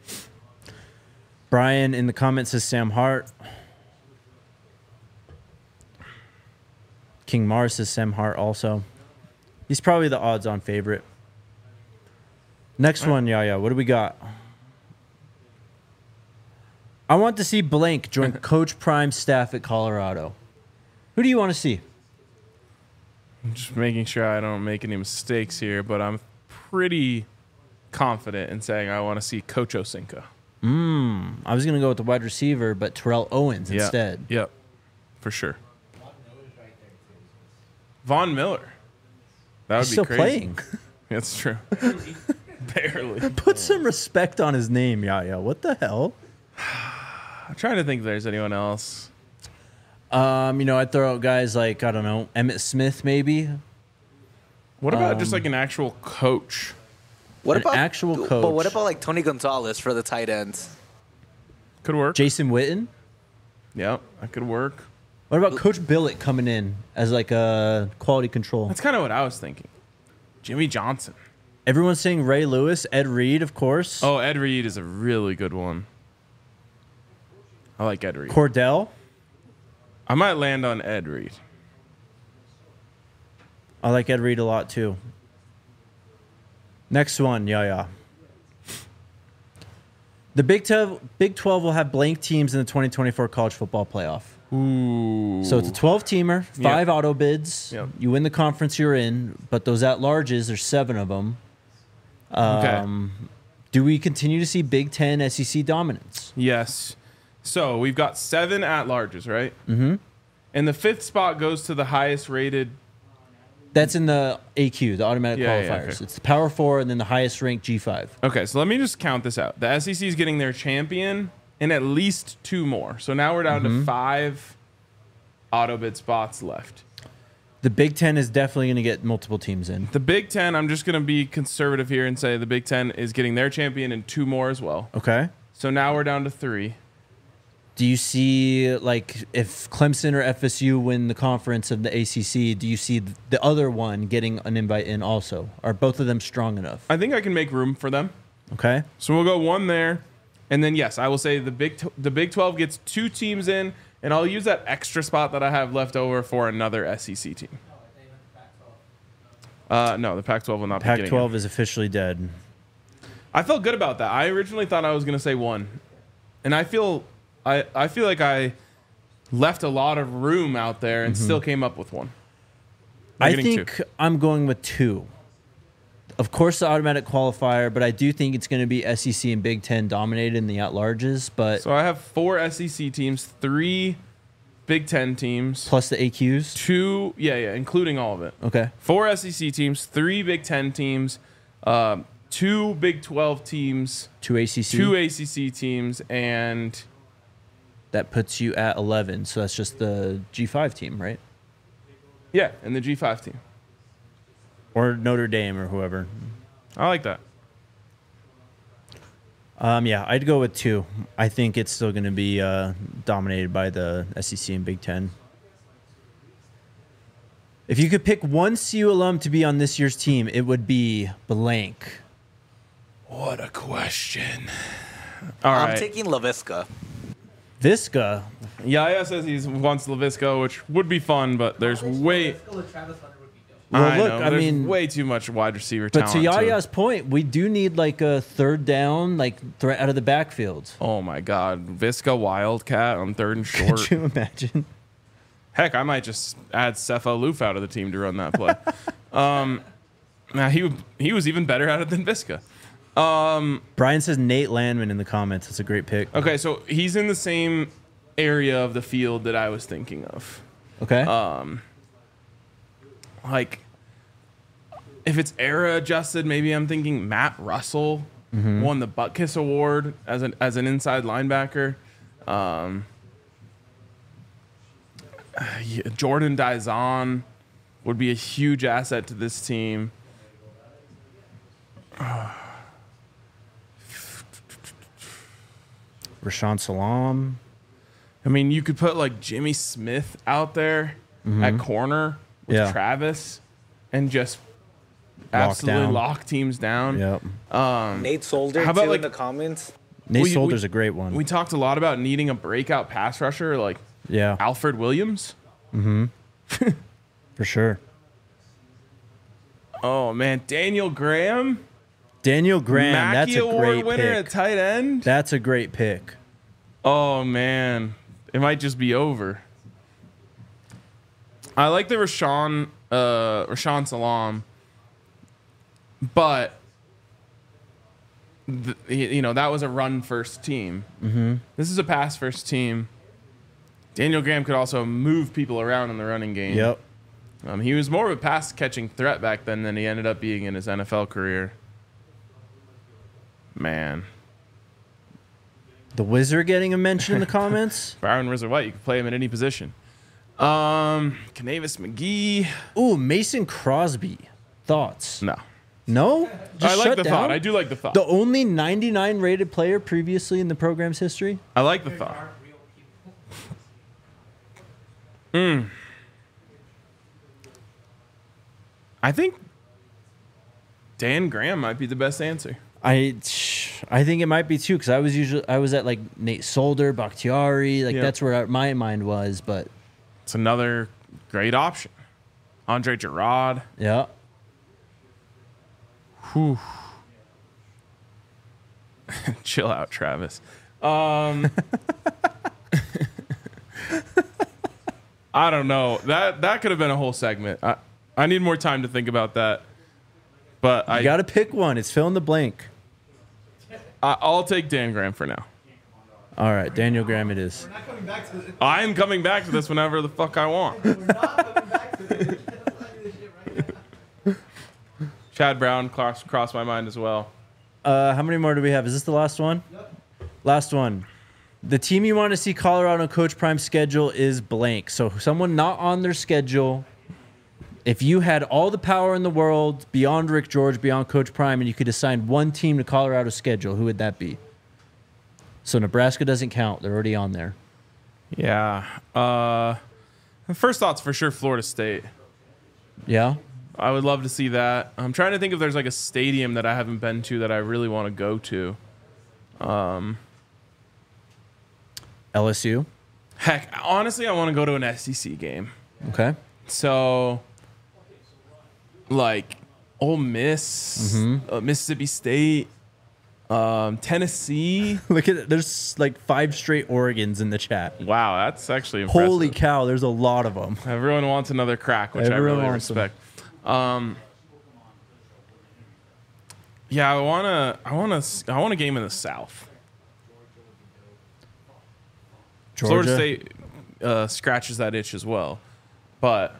Brian in the comments says Sam Hart. King Mars says Sam Hart also. He's probably the odds-on favorite. Next one, Yaya. What do we got? I want to see Blank join Coach Prime's staff at Colorado. Who do you want to see? I'm just making sure I don't make any mistakes here, but I'm pretty confident in saying I want to see Coach Osinka. Mm, I was going to go with the wide receiver, but Terrell Owens Yeah. instead. Yep, for sure. Von Miller. That would He's be still crazy. playing. That's true. Barely. Put some respect on his name, Yaya. What the hell? I'm trying to think if there's anyone else. Um, you know, I'd throw out guys like, I don't know, Emmett Smith maybe. What about Um, just like an actual coach? What An about actual But what coach. about like Tony Gonzalez for the tight ends? Could work. Jason Witten. Yep, that could work. What about Coach Billett coming in as like a quality control? That's kind of what I was thinking. Jimmy Johnson. Everyone's saying Ray Lewis, Ed Reed, of course. Oh, Ed Reed is a really good one. I like Ed Reed. Cordell. I might land on Ed Reed. I like Ed Reed a lot too. Next one, Yaya. The Big twelve, Big twelve will have blank teams in the twenty twenty-four college football playoff. Ooh. So it's a twelve-teamer, five Yep. auto bids. Yep. You win the conference you're in, but those at-larges, there's seven of them. Um, Do we continue to see Big Ten S E C dominance? Yes. So we've got seven at larges, right? Mm-hmm. And the fifth spot goes to the highest rated. That's in the A Q, the automatic Yeah, yeah, qualifiers. okay. It's the Power Four and then the highest ranked G five. Okay, so let me just count this out. The S E C is getting their champion and at least two more. So now we're down to five auto bid spots left. The Big Ten is definitely going to get multiple teams in. The Big Ten, I'm just going to be conservative here and say the Big Ten is getting their champion and two more as well. Okay. So now we're down to three. Do you see, like, if Clemson or F S U win the conference of the A C C, do you see the other one getting an invite in also? Are both of them strong enough? I think I can make room for them. Okay. So we'll go one there. And then, yes, I will say the Big Tw- the Big twelve gets two teams in, and I'll use that extra spot that I have left over for another S E C team. Uh, no, the Pac twelve will not be Pac getting twelve in. is officially dead. I felt good about that. I originally thought I was going to say one. And I feel I, I feel like I left a lot of room out there and still came up with one. By I getting think two. I'm going with two. Of course, the automatic qualifier, but I do think it's going to be S E C and Big Ten dominated in the at-larges, but So I have four S E C teams, three Big Ten teams, plus the A Qs. two, yeah, yeah, including all of it. Okay. Four S E C teams, three Big Ten teams, um, two Big twelve teams, Two A C C. two A C C teams, and That puts you at eleven, so that's just the G five team, right? yeah, and the G five team. Or Notre Dame or whoever. I like that. Um, yeah, I'd go with two. I think it's still going to be uh, dominated by the S E C and Big Ten. If you could pick one C U alum to be on this year's team, it would be blank. What a question. All I'm right. taking LaVisca. Visca. Yaya says he wants LaVisco, which would be fun, but there's way. Well, I look, know, I there's mean- way too much wide receiver But talent. to Yaya's point, we do need like a third down, like threat out of the backfield. Oh my God, Visca Wildcat on third and short. Could you imagine? Heck, I might just add Cepha Loof out of the team to run that play. um, now he he was even better at it than Visca. Brian says Nate Landman in the comments. That's a great pick. Okay, so he's in the same area of the field that I was thinking of. Okay. Like, if it's era adjusted, maybe I'm thinking Matt Russell won the Butkus Award as an as an inside linebacker. Um, yeah, Jordan Dizon would be a huge asset to this team. Rashawn Salam. I mean, you could put like Jimmy Smith out there at corner with Yeah. Travis and just Lock absolutely down. lock teams down. Yep. Nate Solder How about, too like- in the comments. Nate We- Solder's we- a great one. We talked a lot about needing a breakout pass rusher like yeah, Alfred Williams. for sure. Oh man, Daniel Graham, Daniel Graham, Mackey that's a Award great winner pick. at tight end. That's a great pick. Oh man, it might just be over. I like the Rashawn, uh, Rashawn Salam, but th- you know that was a run first team. Mm-hmm. This is a pass first team. Daniel Graham could also move people around in the running game. Yep. Um, he was more of a pass catching threat back then than he ended up being in his N F L career. Man, The Wizard getting a mention in the comments. Byron Rizzo White, you can play him at any position. Um, Canavis McGee. Ooh, Mason Crosby. Thoughts? No. No? Just I like shut the down? thought. I do like the thought. The only ninety-nine rated player previously in the program's history? I like the thought. Mm. I think Dan Graham might be the best answer. I I think it might be too, because I was usually I was at like Nate Solder, Bakhtiari, like Yeah. that's where my mind was, but It's another great option. Andre Gerard. yeah. Whew. Chill out, Travis. Um, I don't know. That that could have been a whole segment. I, I need more time to think about that. But I You got to pick one. It's fill in the blank. I, I'll take Dan Graham for now. All right, Daniel Graham it is. We're not coming back to this. I am coming back to this whenever the fuck I want. We're not coming back to this. We're just playing this shit right now. Chad Brown crossed crossed my mind as well. Uh, how many more do we have? Is this the last one? Yep. Last one. The team you want to see Colorado Coach Prime schedule is blank. So someone not on their schedule. If you had all the power in the world beyond Rick George, beyond Coach Prime, and you could assign one team to Colorado's schedule, who would that be? So Nebraska doesn't count. They're already on there. Yeah. Uh, first thoughts for sure Florida State. Yeah? I would love to see that. I'm trying to think if there's like a stadium that I haven't been to that I really want to go to. L S U? Heck, honestly, I want to go to an S E C game. Okay. So, like, Ole Miss, uh, Mississippi State, um, Tennessee. Look at it. There's like five straight Oregons in the chat. Wow, that's actually impressive. Holy cow, there's a lot of them. Everyone wants another crack, which Everyone I really wants 'em. respect. Um, yeah, I wanna, I wanna, I want a game in the South. Georgia? Florida State uh, scratches that itch as well, but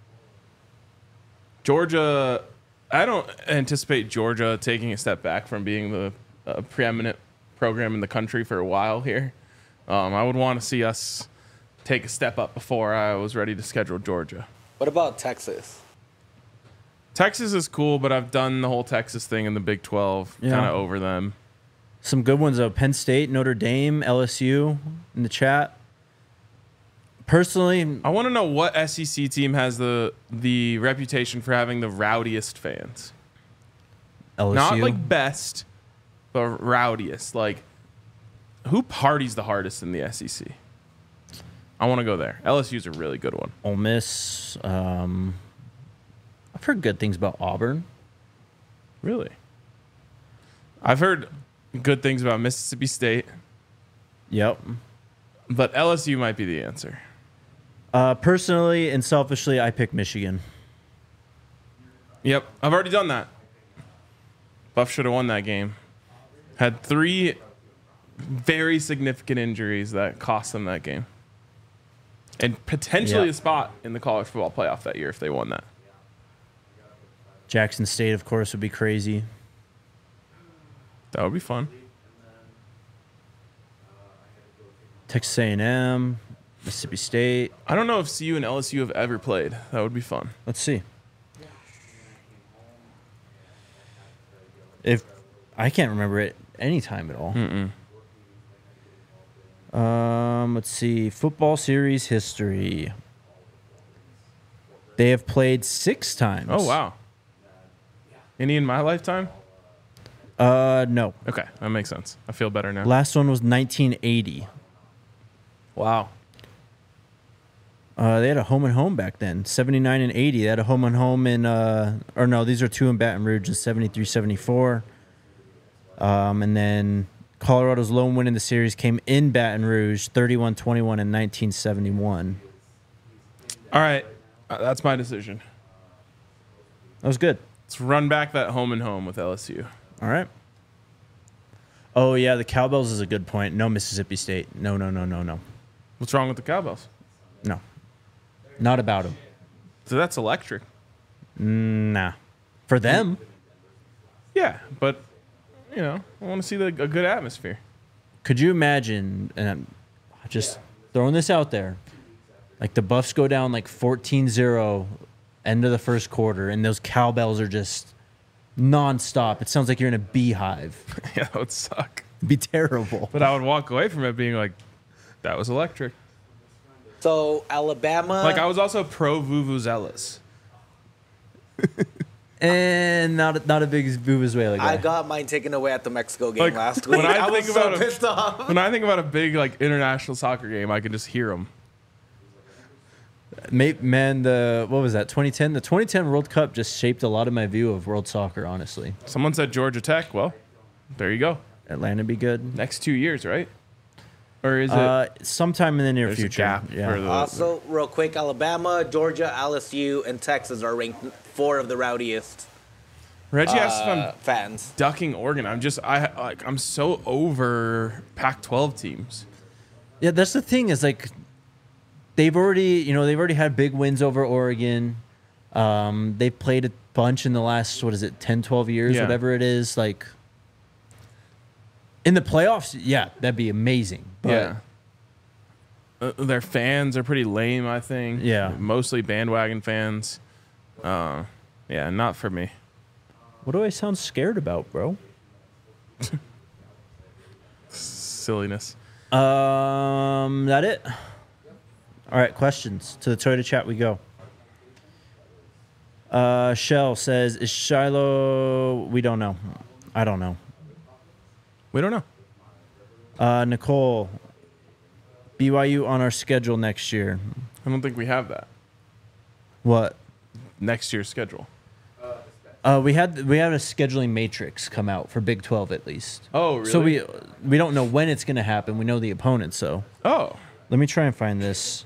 Georgia, I don't anticipate Georgia taking a step back from being the uh, preeminent program in the country for a while here. Um, I would want to see us take a step up before I was ready to schedule Georgia. What about Texas? Texas is cool, but I've done the whole Texas thing in the Big twelve, Yeah. kind of over them. Some good ones though. Penn State, Notre Dame, L S U in the chat. Personally, I want to know what S E C team has the the reputation for having the rowdiest fans. L S U. Not like best, but rowdiest. Like, who parties the hardest in the S E C? I want to go there. L S U's a really good one. Ole Miss. Um, I've heard good things about Auburn. Really? I've heard good things about Mississippi State, Yep. but L S U might be the answer. Uh, personally and selfishly, I pick Michigan. Yep, I've already done that. Buff should have won that game. Had three very significant injuries that cost them that game. And potentially Yeah. a spot in the college football playoff that year if they won that. Jackson State, of course, would be crazy. That would be fun. Texas A and M, Mississippi State. I don't know if C U and L S U have ever played. That would be fun. Let's see. If I can't remember it any time at all. Mm-mm. Um, let's see. Football series history. They have played six times. Oh wow. Any in my lifetime? Uh, no. Okay, that makes sense. I feel better now. Last one was nineteen eighty. Wow. Uh, they had a home and home back then. seventy-nine and eighty. They had a home and home in, uh, or no, these are two in Baton Rouge in seventy-three seventy-four. Um, and then Colorado's lone win in the series came in Baton Rouge, thirty-one twenty-one in nineteen seventy-one. All right, uh, that's my decision. That was good. Let's run back that home and home with L S U. All right. Oh, yeah, the Cowbells is a good point. No Mississippi State. No, no, no, no, no. What's wrong with the Cowbells? No. Not about them. So that's electric. Nah. For them. Yeah, but you know, I want to see the, a good atmosphere. Could you imagine, and I'm just throwing this out there, like the Buffs go down like fourteen zero end of the first quarter, and those Cowbells are just nonstop. It sounds like you're in a beehive. Yeah, that would suck. It'd be terrible. But I would walk away from it being like, that was electric. So Alabama. Like I was also pro Vuvuzelas. And not a, not a big Vuvuzuela guy. I got mine taken away at the Mexico game Like, last when week. I I, think was so about it- pissed off. When I think about a big like international soccer game, I can just hear them. Mate, man, the what was that? twenty ten. The twenty ten World Cup just shaped a lot of my view of world soccer. Honestly, Someone said Georgia Tech. Well, there you go. Atlanta be good. Next two years, right? Or is it? Uh, sometime in the near there's a future. gap yeah. for the. Also, real quick, Alabama, Georgia, L S U, and Texas are ranked four of the rowdiest Reggie asked if uh, I'm fans. ducking Oregon. I'm just I like I'm so over Pac twelve teams. Yeah, that's the thing is like they've already, you know, they've already had big wins over Oregon. Um, they played a bunch in the last, what is it, ten, twelve years, Yeah. whatever it is. Like in the playoffs, yeah, that'd be amazing. But Yeah. Uh, their fans are pretty lame, I think. Yeah. Mostly bandwagon fans. Uh, yeah, not for me. what do I sound scared about, bro? Silliness. Um, that it? All right, questions. To the Toyota chat we go. Uh, Shell says, is Shiloh, we don't know. I don't know. We don't know. Uh, Nicole, B Y U on our schedule next year. I don't think we have that. What? Next year's schedule. Uh, we had we had a scheduling matrix come out for Big twelve at least. Oh, really? So we we don't know when it's going to happen. We know the opponent. So Oh. let me try and find this.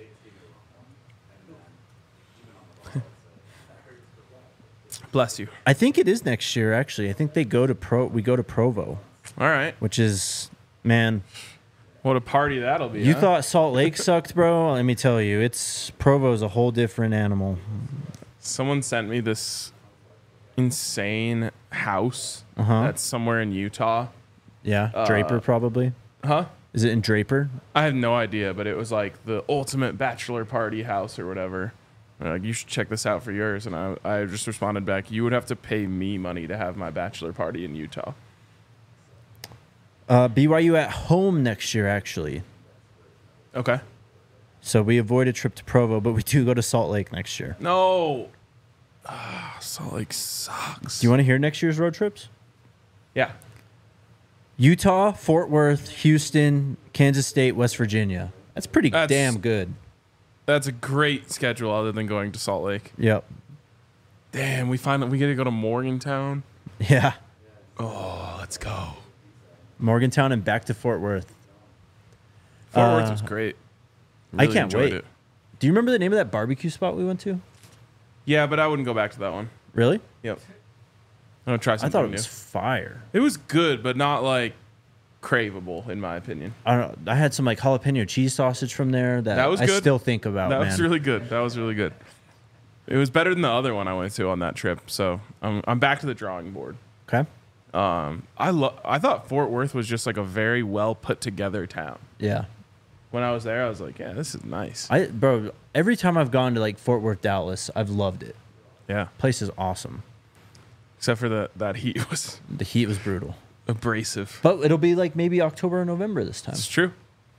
Bless you. I think it is next year. Actually, I think they go to Pro. We go to Provo, All right. which is man. What a party that'll be. You huh? thought Salt Lake sucked, bro? Let me tell you, it's Provo's a whole different animal. Someone sent me this insane house Uh-huh. that's somewhere in Utah. Yeah, Uh, Draper probably. Huh? Is it in Draper? I have no idea, but it was like the ultimate bachelor party house or whatever. They're like, you should check this out for yours. And I, I just responded back, you would have to pay me money to have my bachelor party in Utah. Uh, B Y U at home next year, actually. Okay. So we avoid a trip to Provo, but we do go to Salt Lake next year. No. Ah, Salt Lake sucks. Do you want to hear next year's road trips? Yeah. Utah, Fort Worth, Houston, Kansas State, West Virginia. That's pretty That's- damn good. That's a great schedule other than going to Salt Lake. Yep. Damn, we find that we get to go to Morgantown. Yeah. Oh, let's go. Morgantown and back to Fort Worth. Fort Uh, Worth was great. I Really can't enjoyed wait. it. Do you remember the name of that barbecue spot we went to? Yeah, but I wouldn't go back to that one. Really? Yep. I'm gonna try I something thought it new. was fire. It was good, but not like craveable in my opinion. I don't know. I had some like jalapeno cheese sausage from there that, That was I good. still think about, that man. was really good. That was really good. It was better than the other one I went to on that trip. So I'm I'm back to the drawing board. Okay. Um, I lo- I thought Fort Worth was just like a very well put together town. Yeah. When I was there, I was like, yeah, this is nice. I bro, every time I've gone to like Fort Worth, Dallas, I've loved it. Yeah. Place is awesome. Except for the that heat was The heat was brutal. abrasive. But it'll be like maybe October or November this time. It's true.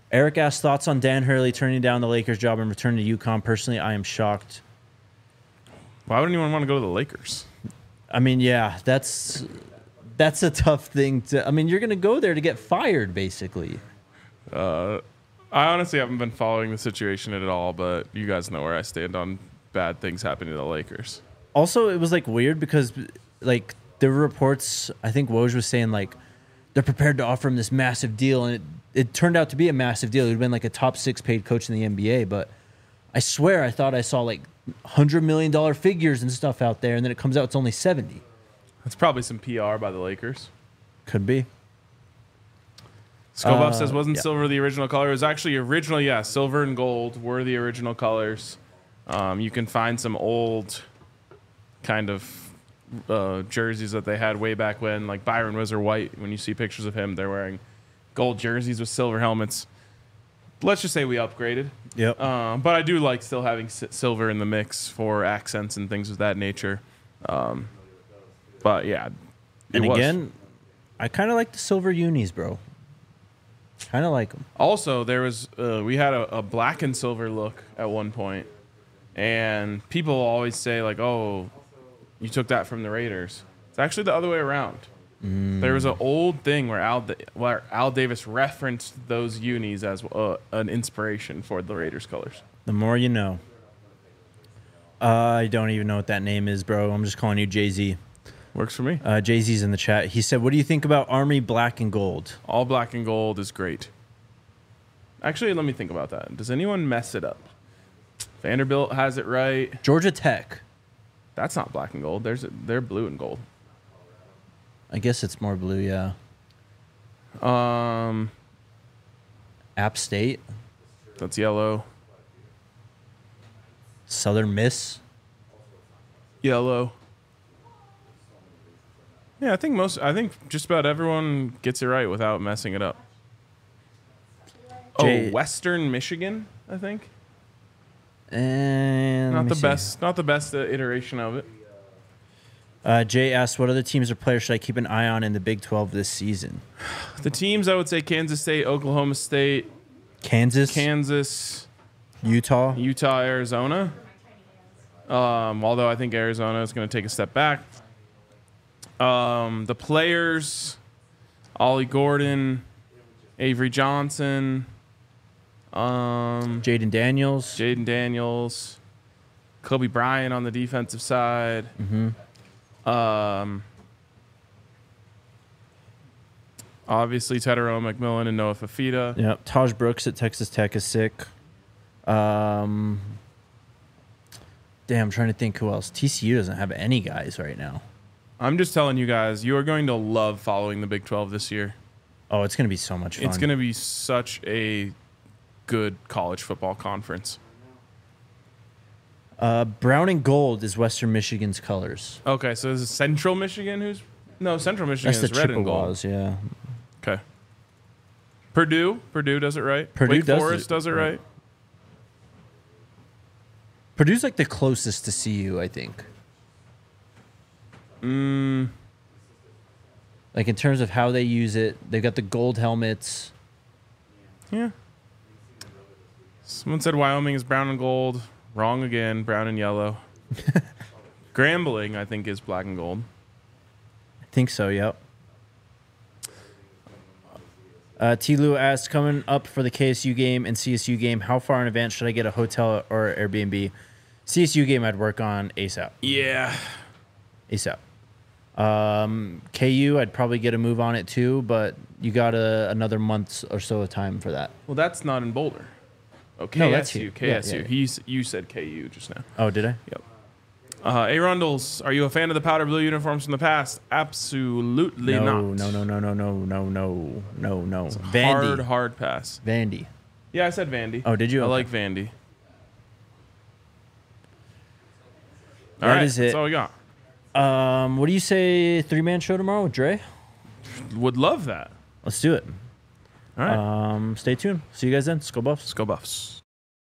Eric asked thoughts on Dan Hurley turning down the Lakers job and returning to UConn. Personally, I am shocked. Why would anyone want to go to the Lakers? I mean, yeah, that's that's a tough thing to. I mean, you're going to go there to get fired, basically. Uh, I honestly haven't been following the situation at all, but you guys know where I stand on bad things happening to the Lakers. Also, it was like weird because like there were reports. I think Woj was saying like they're prepared to offer him this massive deal, and it, it turned out to be a massive deal. He'd been like a top six paid coach in the N B A, but I swear I thought I saw like hundred million dollar figures and stuff out there, and then it comes out it's only seventy. That's probably some P R by the Lakers. Could be. Skullbuff Uh, says, wasn't yeah. silver the original color? It was actually originally, yeah, silver and gold were the original colors. Um, you can find some old kind of uh, jerseys that they had way back when, like Byron Whizzer White. When you see pictures of him, they're wearing gold jerseys with silver helmets. Let's just say we upgraded. Yep. Um, but I do like still having s- silver in the mix for accents and things of that nature. Um, but yeah. it and was. again, I kind of like the silver unis, bro. Kind of like them. Also, there was uh, we had a, a black and silver look at one point, and people always say like, "Oh, you took that from the Raiders." It's actually the other way around. Mm. There was an old thing where Al Da- where Al Davis referenced those unis as uh, an inspiration for the Raiders colors. The more you know. Uh, I don't even know what that name is, bro. I'm just calling you Jay-Z. Works for me. Uh, Jay-Z's in the chat. He said, what do you think about Army black and gold? All black and gold is great. Actually, let me think about that. Does anyone mess it up? Vanderbilt has it right. Georgia Tech. That's not black and gold. There's a, they're blue and gold. I guess it's more blue, yeah. Um, App State. that's yellow. Southern Miss. Yellow. Yeah, I think most. I think just about everyone gets it right without messing it up. Jay- oh, Western Michigan, I think. And let Not me the see. best. Not the best uh, iteration of it. Uh, Jay asked, what other teams or players should I keep an eye on in the Big twelve this season? The teams I would say Kansas State, Oklahoma State, Kansas, Kansas, Utah. Utah, Arizona. Um, although I think Arizona is going to take a step back. Um, the players, Ollie Gordon, Avery Johnson, um, Jaden Daniels. Jaden Daniels, Kobe Bryant on the defensive side. Mm-hmm. Um, obviously, Tedero McMillan and Noah Fafita. Yeah, Taj Brooks at Texas Tech is sick. Um, damn, I'm trying to think who else. T C U doesn't have any guys right now. I'm just telling you guys, you are going to love following the Big twelve this year. Oh, it's going to be so much fun. It's going to be such a good college football conference. Uh, brown and gold is Western Michigan's colors. Okay, so is it Central Michigan who's no Central Michigan That's the is red and gold. Chippewas, yeah. Okay. Purdue, Purdue does it right. Purdue Wake does Forest it does it right. right. Purdue's like the closest to C U, I think. Mm, Like in terms of how they use it, they've got the gold helmets. yeah. Someone said Wyoming is brown and gold. Wrong again. Brown and yellow. Grambling, I think, is black and gold. I think so, yep. Uh, T. Lou asked, coming up for the K S U game and C S U game, how far in advance should I get a hotel or Airbnb? C S U game I'd work on ASAP. Yeah. ASAP. Um, K U, I'd probably get a move on it too, but you got a, another month or so of time for that. Well, that's not in Boulder. Oh, No, that's K S U. here. K S U. Yeah, yeah, yeah. He's, you said K U just now. Oh, did I? Yep. Uh, A. Rundles, are you a fan of the powder blue uniforms from the past? Absolutely no, not. no, no, no, no, no, no, no, no, no. Hard, Vandy. hard pass. Vandy. Yeah, I said Vandy. Oh, did you? I Okay. like Vandy. All That right, is it. That's all we got. Um, what do you say? Three man show tomorrow with Dre? Would love that. Let's do it. All right. Um, stay tuned. See you guys then. Skull Buffs. Let's go Buffs.